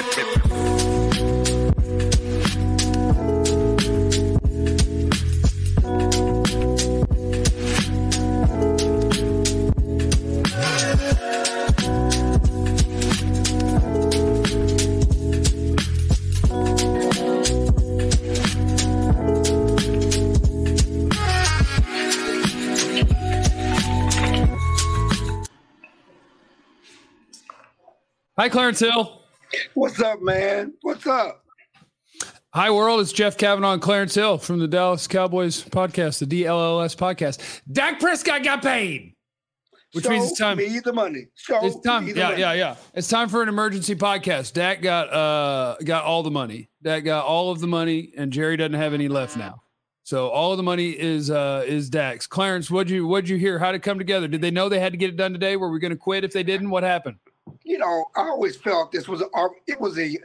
Hi, Clarence Hill. What's up, man? What's up? Hi, world. It's Jeff Kavanaugh and Clarence Hill from the Dallas Cowboys podcast, the DLLS podcast. Dak Prescott got paid, which means it's time. Me the money. It's time. Yeah. It's time for an emergency podcast. Dak got all the money. Dak got all of the money, and Jerry doesn't have any left now. So all of the money is Dak's. Clarence, what'd you hear? How'd it come together? Did they know they had to get it done today? Were we going to quit if they didn't? What happened? You know, I always felt it was a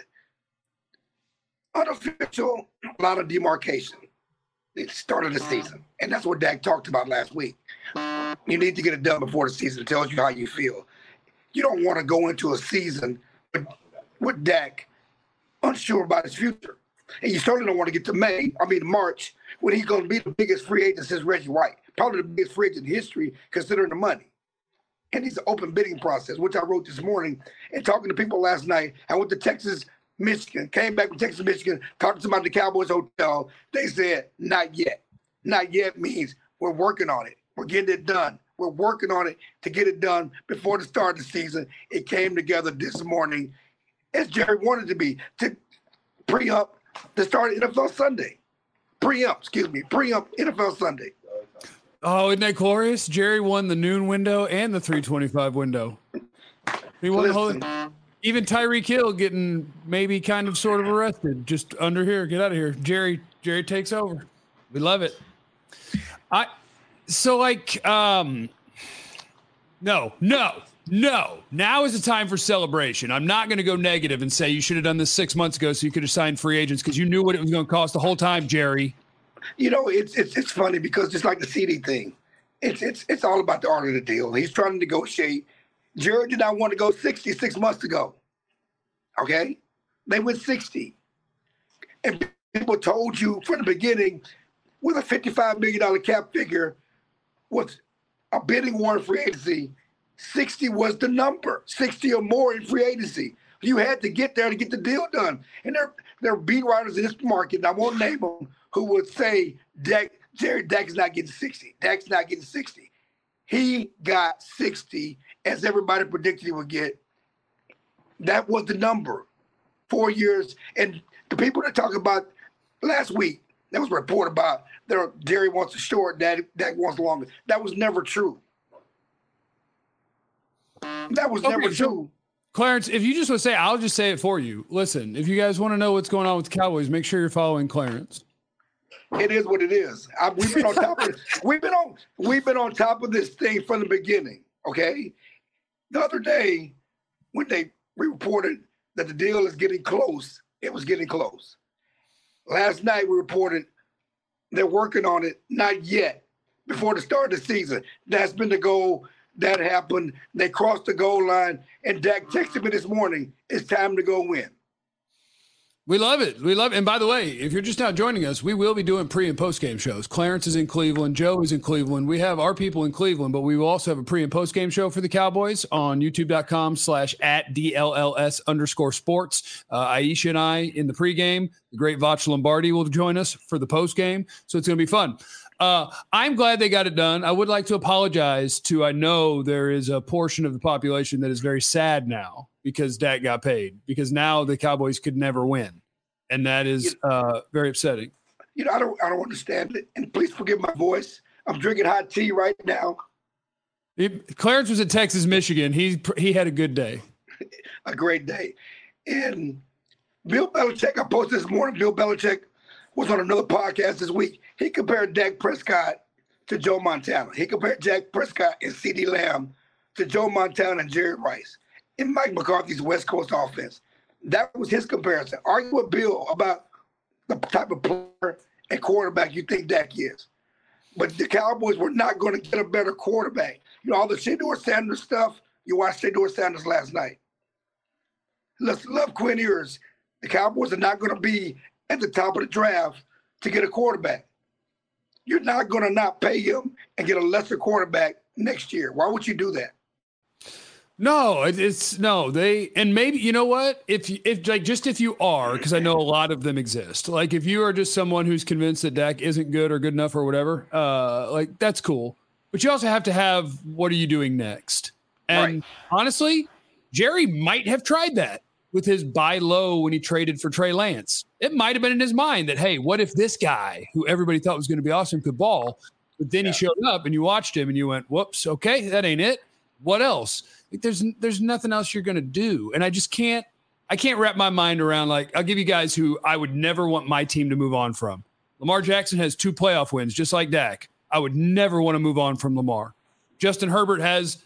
unofficial lot of demarcation. It started the season, and that's what Dak talked about last week. You need to get it done before the season. It tells you how you feel. You don't want to go into a season with Dak unsure about his future, and you certainly don't want to get to March, when he's going to be the biggest free agent since Reggie White, probably the biggest free agent in history considering the money. And it's an open bidding process, which I wrote this morning. And talking to people last night, I went to Texas, Michigan, came back from Texas, Michigan, talked to somebody at the Cowboys hotel. They said, not yet. Not yet means we're working on it. We're getting it done. We're working on it to get it done before the start of the season. It came together this morning, as Jerry wanted to be, to pre-ump the start of NFL Sunday. Pre-ump NFL Sunday. Oh, isn't that glorious? Jerry won the noon window and the 325 window. He won the whole. Even Tyreek Hill getting maybe kind of sort of arrested. Just under here. Get out of here. Jerry takes over. We love it. No. Now is the time for celebration. I'm not going to go negative and say you should have done this 6 months ago so you could have signed free agents because you knew what it was going to cost the whole time, Jerry. You know, it's funny because just like the CD thing, it's all about the art of the deal. He's trying to negotiate. Jerry did not want to go 60 6 months ago. Okay? They went 60. And people told you from the beginning with a $55 million cap figure with a bidding war in free agency, 60 was the number, 60 or more in free agency. You had to get there to get the deal done. And there are beat writers in this market, and I won't name them, who would say Dak is not getting 60. Dak's not getting 60. He got 60, as everybody predicted he would get. That was the number. 4 years. And the people that talk about last week, there was a report about Jerry wants a short, Dak wants longer. That was never true. That was never true. Clarence, if you just want to say, I'll just say it for you. Listen, if you guys want to know what's going on with the Cowboys, make sure you're following Clarence. It is what it is. We've been on top of it. We've been on top of this thing from the beginning. Okay. The other day, when we reported that the deal is getting close, it was getting close. Last night we reported they're working on it, not yet, before the start of the season. That's been the goal. That happened. They crossed the goal line, and Dak texted me this morning, it's time to go win. We love it. We love it. And by the way, if you're just now joining us, we will be doing pre- and post-game shows. Clarence is in Cleveland. Joe is in Cleveland. We have our people in Cleveland, but we will also have a pre- and post-game show for the Cowboys on youtube.com/@DLLS_sports. Aisha and I in the pregame. The great Vach Lombardi will join us for the postgame. So it's going to be fun. I'm glad they got it done. I would like to apologize to, I know there is a portion of the population that is very sad now because Dak got paid, because now the Cowboys could never win. And that is very upsetting. You know, I don't understand it. And please forgive my voice. I'm drinking hot tea right now. Clarence was at Texas, Michigan. He had a good day. A great day. And Bill Belichick, I posted this morning, Bill Belichick was on another podcast this week. He compared Dak Prescott to Joe Montana. He compared Dak Prescott and CeeDee Lamb to Joe Montana and Jerry Rice in Mike McCarthy's West Coast offense. That was his comparison. Argue with Bill about the type of player and quarterback you think Dak is. But the Cowboys were not going to get a better quarterback. You know, all the Shedeur Sanders stuff, you watched Shedeur Sanders last night. let's love Quinn Ewers. The Cowboys are not going to be at the top of the draft to get a quarterback. You're not going to not pay him and get a lesser quarterback next year. Why would you do that? No, and maybe, you know what? If you are, because I know a lot of them exist. Like if you are just someone who's convinced that Dak isn't good or good enough or whatever, like that's cool. But you also have to have, what are you doing next? And honestly, Jerry might have tried that with his buy low when he traded for Trey Lance. It might have been in his mind that, hey, what if this guy who everybody thought was going to be awesome could ball? But then he showed up and you watched him and you went, whoops, okay, that ain't it. What else? Like, there's nothing else you're going to do. And I can't wrap my mind around, like, I'll give you guys who I would never want my team to move on from. Lamar Jackson has 2 playoff wins, just like Dak. I would never want to move on from Lamar. Justin Herbert has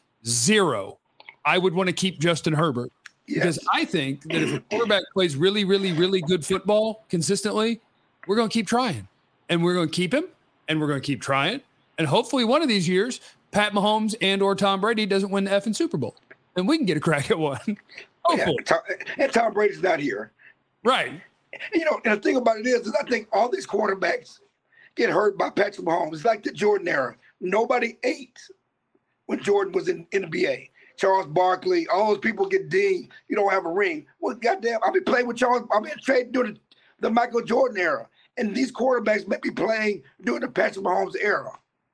0. I would want to keep Justin Herbert. Yes. Because I think that if a quarterback plays really, really, really good football consistently, we're going to keep trying. And we're going to keep him, and we're going to keep trying. And hopefully one of these years, Pat Mahomes and or Tom Brady doesn't win the effing Super Bowl. And we can get a crack at one. Hopefully. Yeah, and Tom Brady's not here. Right. And the thing about it is I think all these quarterbacks get hurt by Patrick Mahomes. It's like the Jordan era. Nobody ate when Jordan was in the NBA. Charles Barkley, all those people get dinged. You don't have a ring. Well, goddamn, I've been playing with Charles. I've been trading during the Michael Jordan era. And these quarterbacks may be playing during the Patrick Mahomes era.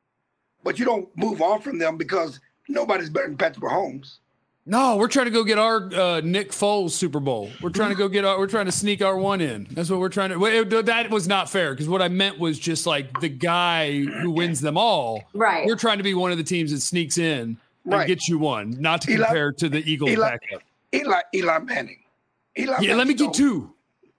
But you don't move on from them because nobody's better than Patrick Mahomes. No, we're trying to go get our Nick Foles Super Bowl. We're trying to sneak our one in. That's what we're trying to. That was not fair because what I meant was just like the guy who wins them all. Right. We're trying to be one of the teams that sneaks in and gets you one, not to compare to the Eagles backup. Eli Manning. Let me get 2.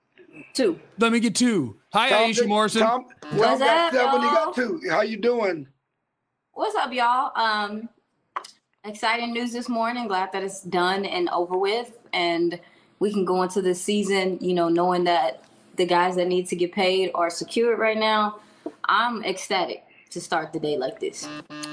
Let me get 2. Hi, Aisha Morrison. Tom What's got up, 7. He y'all? got 2. How you doing? What's up, y'all? Exciting news this morning. Glad that it's done and over with. And we can go into the season, knowing that the guys that need to get paid are secured right now. I'm ecstatic to start the day like this.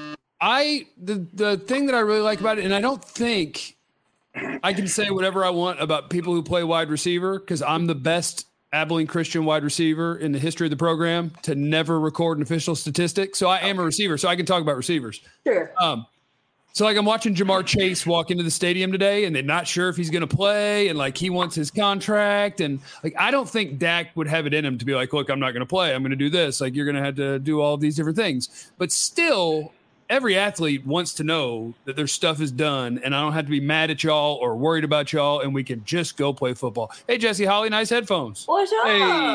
The thing that I really like about it, and I don't think I can say whatever I want about people who play wide receiver because I'm the best Abilene Christian wide receiver in the history of the program to never record an official statistic. So I am a receiver, so I can talk about receivers. Sure. So like I'm watching Jamar Chase walk into the stadium today and they're not sure if he's going to play and like he wants his contract. And like, I don't think Dak would have it in him to be like, look, I'm not going to play. I'm going to do this. Like you're going to have to do all of these different things. But still, every athlete wants to know that their stuff is done and I don't have to be mad at y'all or worried about y'all and we can just go play football. Hey, Jesse Holly, nice headphones. What's up?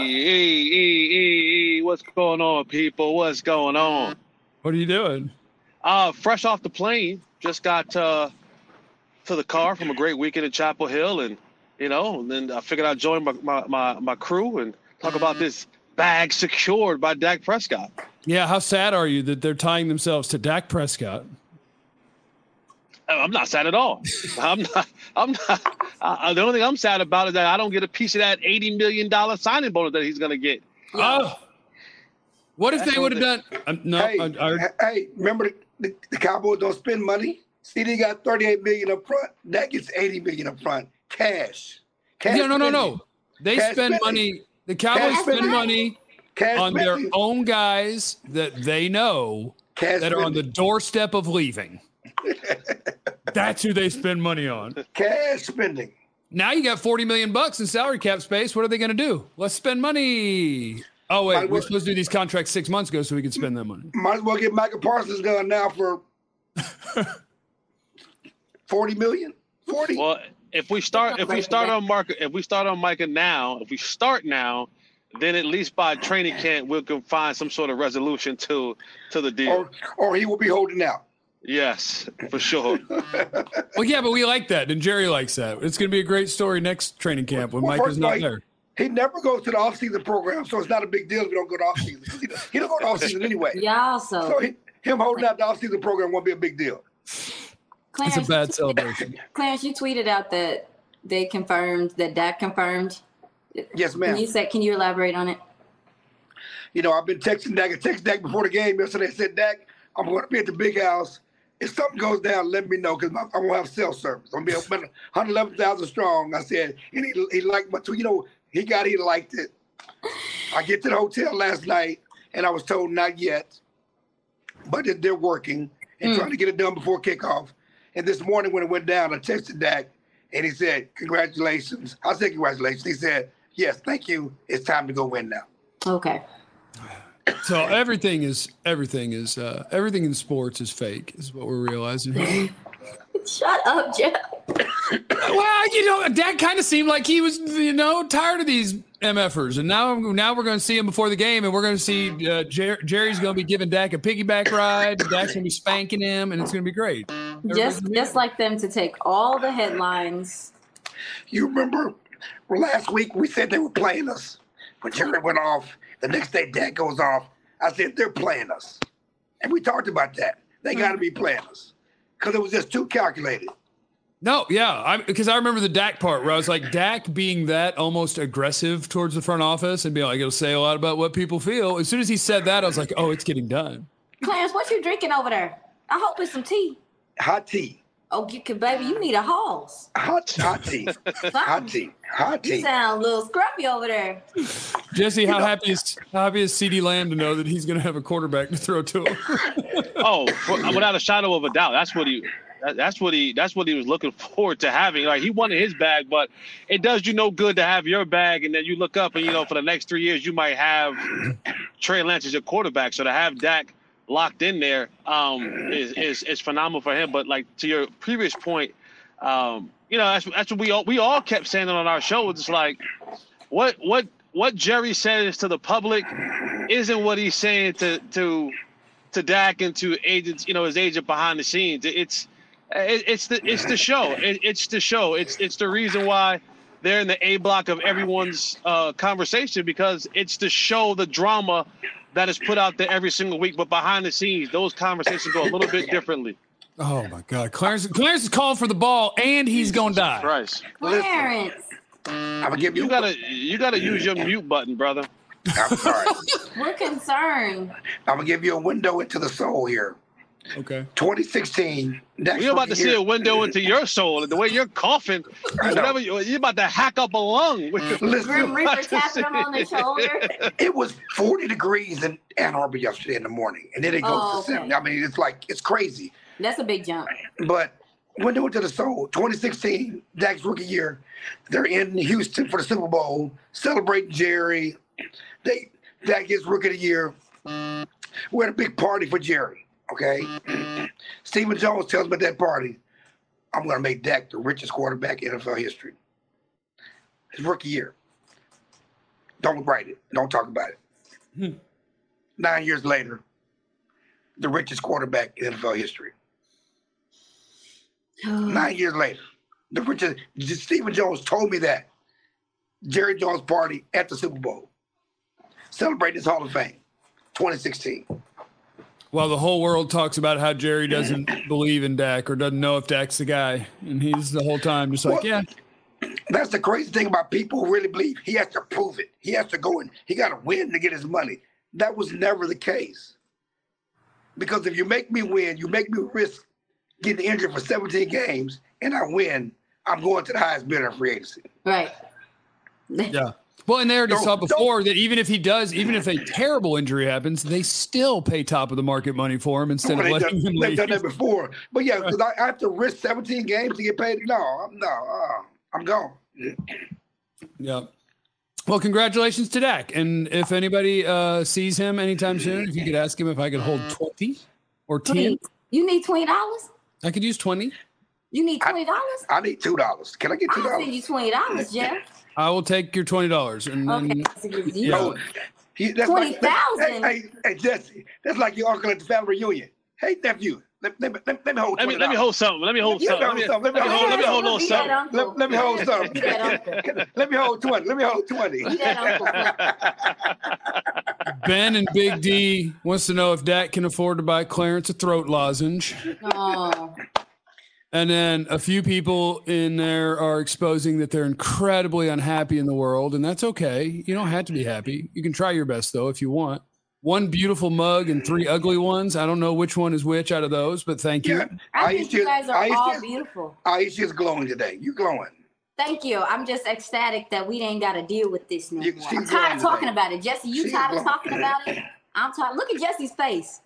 Hey, what's going on, people? What's going on? What are you doing? Fresh off the plane, just got to the car from a great weekend in Chapel Hill, and then I figured I'd join my crew and talk about this bag secured by Dak Prescott. Yeah, how sad are you that they're tying themselves to Dak Prescott? I'm not sad at all. I'm not. The only thing I'm sad about is that I don't get a piece of that $80 million signing bonus that he's going to get. Oh. What if they would have done? Hey, remember the Cowboys don't spend money. CD got $38 million up front. That gets $80 million up front. Cash. No. They spend money. The Cowboys spend money on their own guys that they know that are on the doorstep of leaving. That's who they spend money on. Cash spending. Now you got $40 million in salary cap space. What are they going to do? Let's spend money. Oh, wait, we're supposed to do these contracts 6 months ago so we can spend that money. Might as well get Micah Parsons done now for $40 million. 40. Well, if we start on Micah now, then at least by training camp we can find some sort of resolution to the deal. Or he will be holding out. Yes, for sure. Well, yeah, but we like that, and Jerry likes that. It's going to be a great story next training camp when Mike is not there. He never goes to the off-season program, so it's not a big deal if you don't go to off-season. He don't go to off-season anyway. Yeah, so him holding out the off-season program won't be a big deal. Clarence, it's a bad celebration. Clarence, you tweeted out that they confirmed that Dak confirmed. Yes, ma'am. Can you elaborate on it? I've been texting Dak. I texted Dak before the game yesterday. I said, Dak, I'm going to be at the big house if something goes down, let me know because I won't have cell service. I'm gonna be 111,000 strong. I said, and he liked my tweet. He liked it. I get to the hotel last night, and I was told not yet, but they're working and trying to get it done before kickoff. And this morning when it went down, I texted Dak, and he said, "Congratulations." I said, "Congratulations." He said, "Yes, thank you. It's time to go win now." Okay. So everything in sports is fake, is what we're realizing here. Shut up, Jeff. Well, Dak kind of seemed like he was, tired of these MFers, and now we're going to see him before the game, and we're going to see Jerry's going to be giving Dak a piggyback ride. Dak's going to be spanking him, and it's going to be great. Just like them to take all the headlines. You remember last week we said they were playing us when Jerry went off. The next day Dak goes off. I said they're playing us, and we talked about that. They got to be playing us because it was just too calculated. No, yeah, because I remember the Dak part where I was like, Dak being that almost aggressive towards the front office and being like, it'll say a lot about what people feel. As soon as he said that, I was like, oh, it's getting done. Clarence, what you drinking over there? I hope it's some tea. Hot tea. Oh, baby, you need a Halls. Hot tea. Hot tea. You sound a little scruffy over there. Jesse, how happy is CeeDee Lamb to know that he's going to have a quarterback to throw to him? Without a shadow of a doubt, that's what he was looking forward to having. Like, he wanted his bag, but it does you no good to have your bag, and then you look up and for the next 3 years you might have Trey Lance as your quarterback. So to have Dak locked in there is phenomenal for him. But like to your previous point, that's what we all kept saying on our show. It's like what Jerry says to the public isn't what he's saying to Dak and to agents, his agent behind the scenes. It's the show. It's the show. It's the reason why they're in the A block of everyone's conversation, because it's the show, the drama that is put out there every single week. But behind the scenes, those conversations go a little bit differently. Oh my God, Clarence is calling for the ball, and he's gonna die. Christ. Clarence, I'm gonna give you. You gotta use your mute button, brother. I'm sorry. we're concerned. I'm gonna give you a window into the soul here. Okay. 2016. We're about to see a window into your soul, and the way you're coughing, you're about to hack up a lung. Grim Reaper tapping him on the shoulder. It was 40 degrees in Ann Arbor yesterday in the morning, and then it goes to 70. I mean, it's crazy. That's a big jump. But window into the soul. 2016, Dak's rookie year. They're in Houston for the Super Bowl, celebrating Jerry. Dak gets rookie of the year. We had a big party for Jerry. Okay, Stephen Jones tells me at that party, I'm going to make Dak the richest quarterback in NFL history. His rookie year. Don't write it. Don't talk about it. 9 years later, the richest quarterback in NFL history. 9 years later, the richest. Stephen Jones told me that. Jerry Jones party at the Super Bowl. Celebrating his Hall of Fame. 2016. Well, the whole world talks about how Jerry doesn't believe in Dak or doesn't know if Dak's the guy. And he's the whole time just like, yeah. That's the crazy thing about people who really believe he has to prove it. He has to go and he got to win to get his money. That was never the case. Because if you make me win, you make me risk getting injured for 17 games, and I win, I'm going to the highest bidder in free agency. Right. Yeah. Well, and they already saw before that even if a terrible injury happens, they still pay top of the market money for him instead of letting him leave. They've done that before. But yeah, because I have to risk 17 games to get paid. I'm gone. Yeah. Well, congratulations to Dak. And if anybody sees him anytime soon, if you could ask him if I could hold 20 or 10. You need $20? I could use 20. You need $20? I need $2. Can I get $2? I'll send you $20, Jeff. I will take your $20. And then, that's 20,000. Hey, Jesse, that's like your uncle at the family reunion. Hey, nephew, let me hold $20. Let me hold something. Let me hold something. Let me hold a little something. Let me hold something. Let me hold 20. Let me hold 20. Ben and Big D wants to know if Dak can afford to buy Clarence a throat lozenge. Oh. And then a few people in there are exposing that they're incredibly unhappy in the world, and that's okay. You don't have to be happy. You can try your best, though, if you want. one beautiful mug and 3 ugly ones. I don't know which one is which out of those, but thank you. Yeah. I think you guys are all beautiful. Aisha's glowing today. You glowing. Thank you. I'm just ecstatic that we ain't got to deal with this no more. I'm glowing tired of talking today. about it. Jesse, you tired of talking about it? I'm tired. Look at Jesse's face.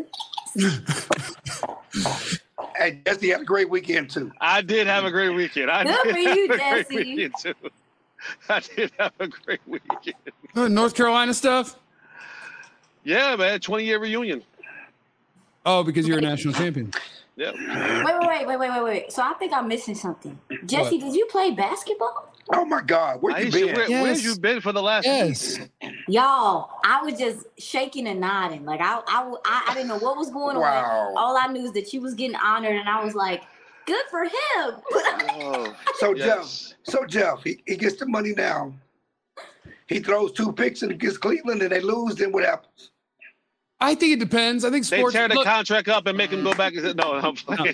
Hey, Jesse had a great weekend too. I did have a great weekend. Good for you, Jesse. I did have a great weekend. North Carolina stuff? Yeah, man. 20-year reunion. Oh, because you're a national champion. Yeah. Wait. So I think I'm missing something. Jesse, What? Did you play basketball? Oh my God, where you been? Where have you been for the last week? Y'all, I was just shaking and nodding. Like I didn't know what was going Wow. on. All I knew is that you was getting honored, and I was like, good for him. Oh, So yes. Jeff, he gets the money now. He throws 2 picks against Cleveland and they lose, then what happens? I think it depends. I think They sports. tear the contract up and make him go back and say, no, I'm playing.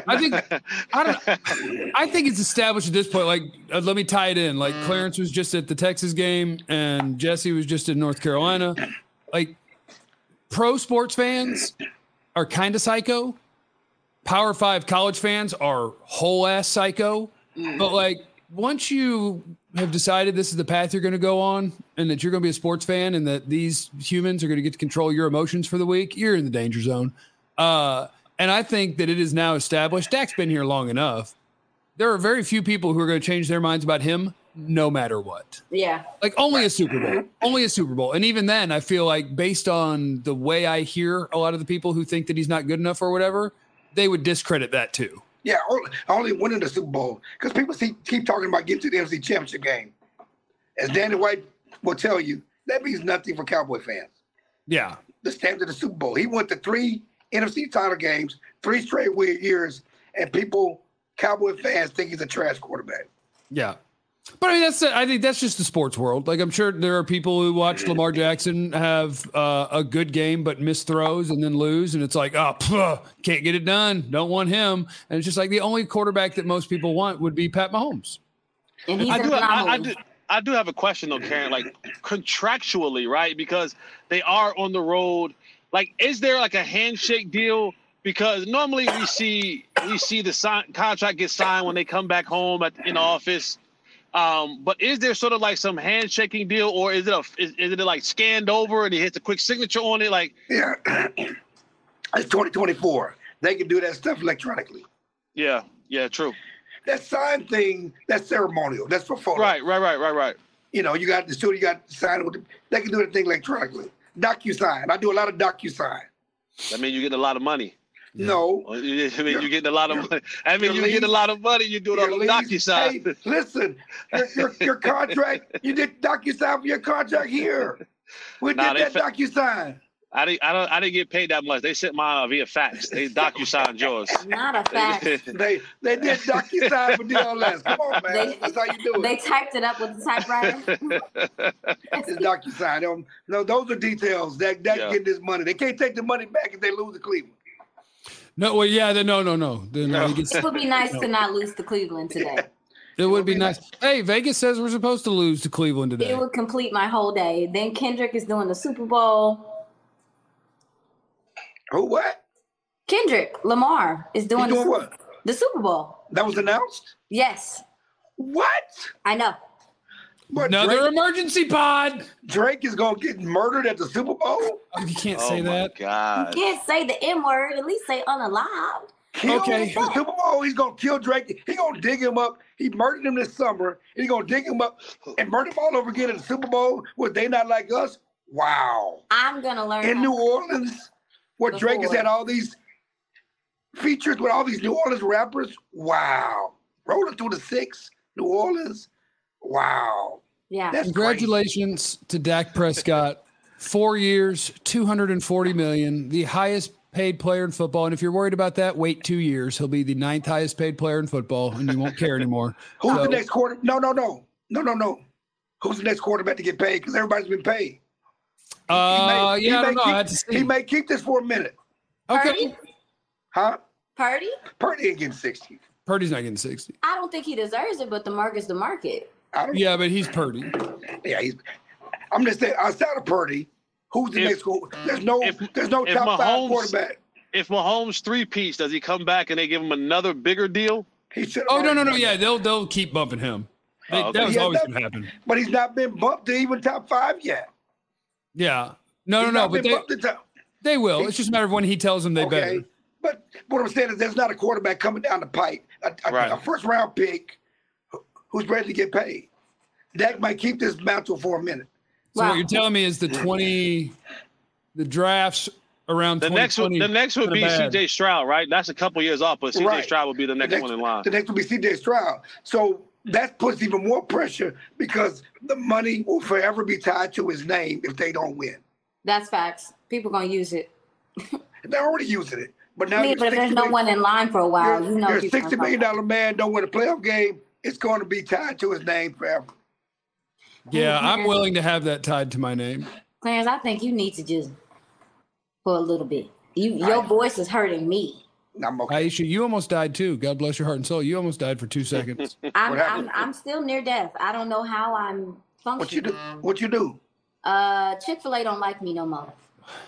I think it's established at this point. Like, let me tie it in. Like, Clarence was just at the Texas game, and Jesse was just in North Carolina. Like, pro sports fans are kind of psycho. Power 5 college fans are whole ass psycho. But like, once you have decided this is the path you're going to go on, and that you're going to be a sports fan, and that these humans are going to get to control your emotions for the week, you're in the danger zone. And I think that it is now established. Dak's been here long enough. There are very few people who are going to change their minds about him, no matter what. Yeah. Like only a Super Bowl. And even then, I feel like based on the way I hear a lot of the people who think that he's not good enough or whatever, they would discredit that too. Yeah, only winning the Super Bowl. Because people keep talking about getting to the NFC Championship game. As Danny White will tell you, that means nothing for Cowboy fans. Yeah. The standard of the Super Bowl. He went to 3 NFC title games, 3 straight years, and Cowboy fans think he's a trash quarterback. Yeah. But I mean, I think that's just the sports world. Like, I'm sure there are people who watch Lamar Jackson have a good game but miss throws and then lose, and it's like, can't get it done. Don't want him. And it's just like the only quarterback that most people want would be Pat Mahomes. And he's I do have a question though, Karen. Like contractually, right? Because they are on the road. Like, is there like a handshake deal? Because normally we see the contract get signed when they come back home in the office. But is there sort of like some handshaking deal, or is it like scanned over and he hits a quick signature on it? Like, yeah, it's 2024. They can do that stuff electronically. Yeah, true. That sign thing, that's ceremonial. That's for photo. Right. You know, you got the studio, you got to sign it they can do that thing electronically. DocuSign. I do a lot of DocuSign. That means you get a lot of money. No. I mean, you're getting a lot of money. I mean, you get a lot of money. You do it on the DocuSign. Hey, listen, your contract, you did DocuSign for your contract here. We did that DocuSign. I didn't get paid that much. They sent mine via fax. They DocuSigned yours. Not a fax. They did DocuSign for DLS. Come on, man. That's how you do it. They typed it up with the typewriter. It's DocuSign. No, those are details. That getting this money. They can't take the money back if they lose to Cleveland. No, well, yeah, no. It would be nice to not lose to Cleveland today. It would be nice. Hey, Vegas says we're supposed to lose to Cleveland today. It would complete my whole day. Then Kendrick is doing the Super Bowl. Who, what? Kendrick Lamar is doing what? The Super Bowl. That was announced? Yes. What? I know. What, Another emergency pod. Drake is going to get murdered at the Super Bowl? You can't say that. Oh, my God. You can't say the M word. At least say unalived. Okay. The Super Bowl, he's going to kill Drake. He's going to dig him up. He murdered him this summer. He's going to dig him up and murder him all over again at the Super Bowl. Were they not like us? Wow. I'm going to learn. In New Orleans, where Drake has had all these features with all these New Orleans rappers. Wow. Rolling through the 6, New Orleans. Wow. Yeah. That's Congratulations to Dak Prescott. 4 years, $240 million, the highest paid player in football. And if you're worried about that, wait 2 years. He'll be the 9th highest paid player in football, and you won't care anymore. Who's the next quarter? No. Who's the next quarterback to get paid? Because everybody's been paid. I don't know. I had to see. He may keep this for a minute. Okay. Purdy? Huh? Purdy? Purdy ain't getting 60. Purdy's not getting 60. I don't think he deserves it, but the market's the market. Yeah, but he's Purdy. Yeah, I'm just saying, outside of Purdy, Who's the next goal? There's no top 5 quarterback. If Mahomes three-peats, does he come back and they give him another bigger deal? No. Yeah, they'll keep bumping him. That was always going to happen. But he's not been bumped to even top 5 yet. Yeah. No. But they will. It's just a matter of when he tells them they better. But what I'm saying is there's not a quarterback coming down the pipe, a first-round pick who's ready to get paid. Dak might keep this mantle for a minute. So what you're telling me is the drafts around the next would be C.J. Stroud, right? That's a couple years off, but C.J. Stroud would be the next one in line. The next will be C.J. Stroud. So that puts even more pressure because the money will forever be tied to his name if they don't win. That's facts. People gonna use it. They're already using it, but now but if there's no one in line for a while, you're a $60 million man, don't win a playoff game. It's going to be tied to his name forever. Yeah, I'm willing to have that tied to my name. Clarence, I think you need to just for a little bit. Your voice is hurting me. I'm okay. Aisha, you almost died too. God bless your heart and soul. You almost died for 2 seconds. I'm still near death. I don't know how I'm functioning. What you do? Chick-fil-A don't like me no more.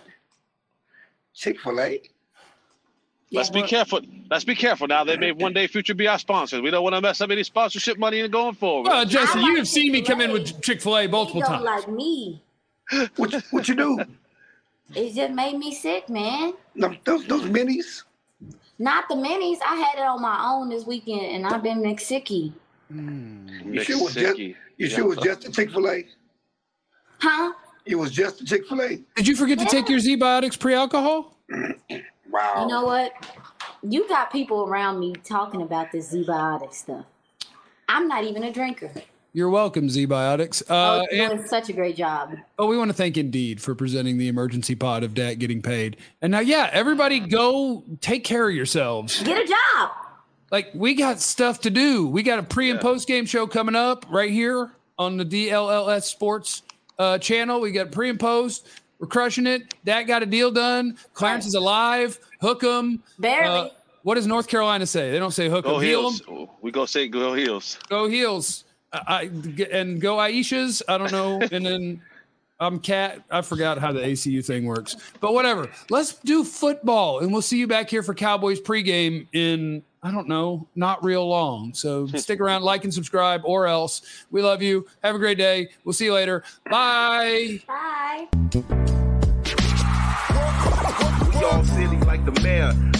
Chick-fil-A? Let's be careful. Let's be careful now. They may one day future be our sponsors. We don't want to mess up any sponsorship money and going forward. Well, Jesse, you have seen me come in with Chick-fil-A multiple times. Don't like me. What you do? It just made me sick, man. Those minis? Not the minis. I had it on my own this weekend, and I've been McSicky. You sure it was just a Chick-fil-A? Huh? It was just a Chick-fil-A? Did you forget to take your Z-Biotics pre-alcohol? Wow. You know what? You got people around me talking about this Z-Biotic stuff. I'm not even a drinker. You're welcome, Z-Biotics. You're doing such a great job. We want to thank Indeed for presenting the emergency pod of Dak getting paid. And now, everybody go take care of yourselves. Get a job. Like, we got stuff to do. We got a pre- and post-game show coming up right here on the DLLS Sports channel. We got pre and post. We're crushing it. Dak got a deal done. Clarence is alive. Hook 'em. Barely. What does North Carolina say? They don't say hook 'em. Go Heels. We go say go Heels. Go Heels. And go Aishas. I don't know. And then I'm Cat. I forgot how the ACU thing works. But whatever. Let's do football. And we'll see you back here for Cowboys pregame in, I don't know, not real long. So stick around, like and subscribe, or else. We love you. Have a great day. We'll see you later. Bye. Bye. We all silly like the mayor.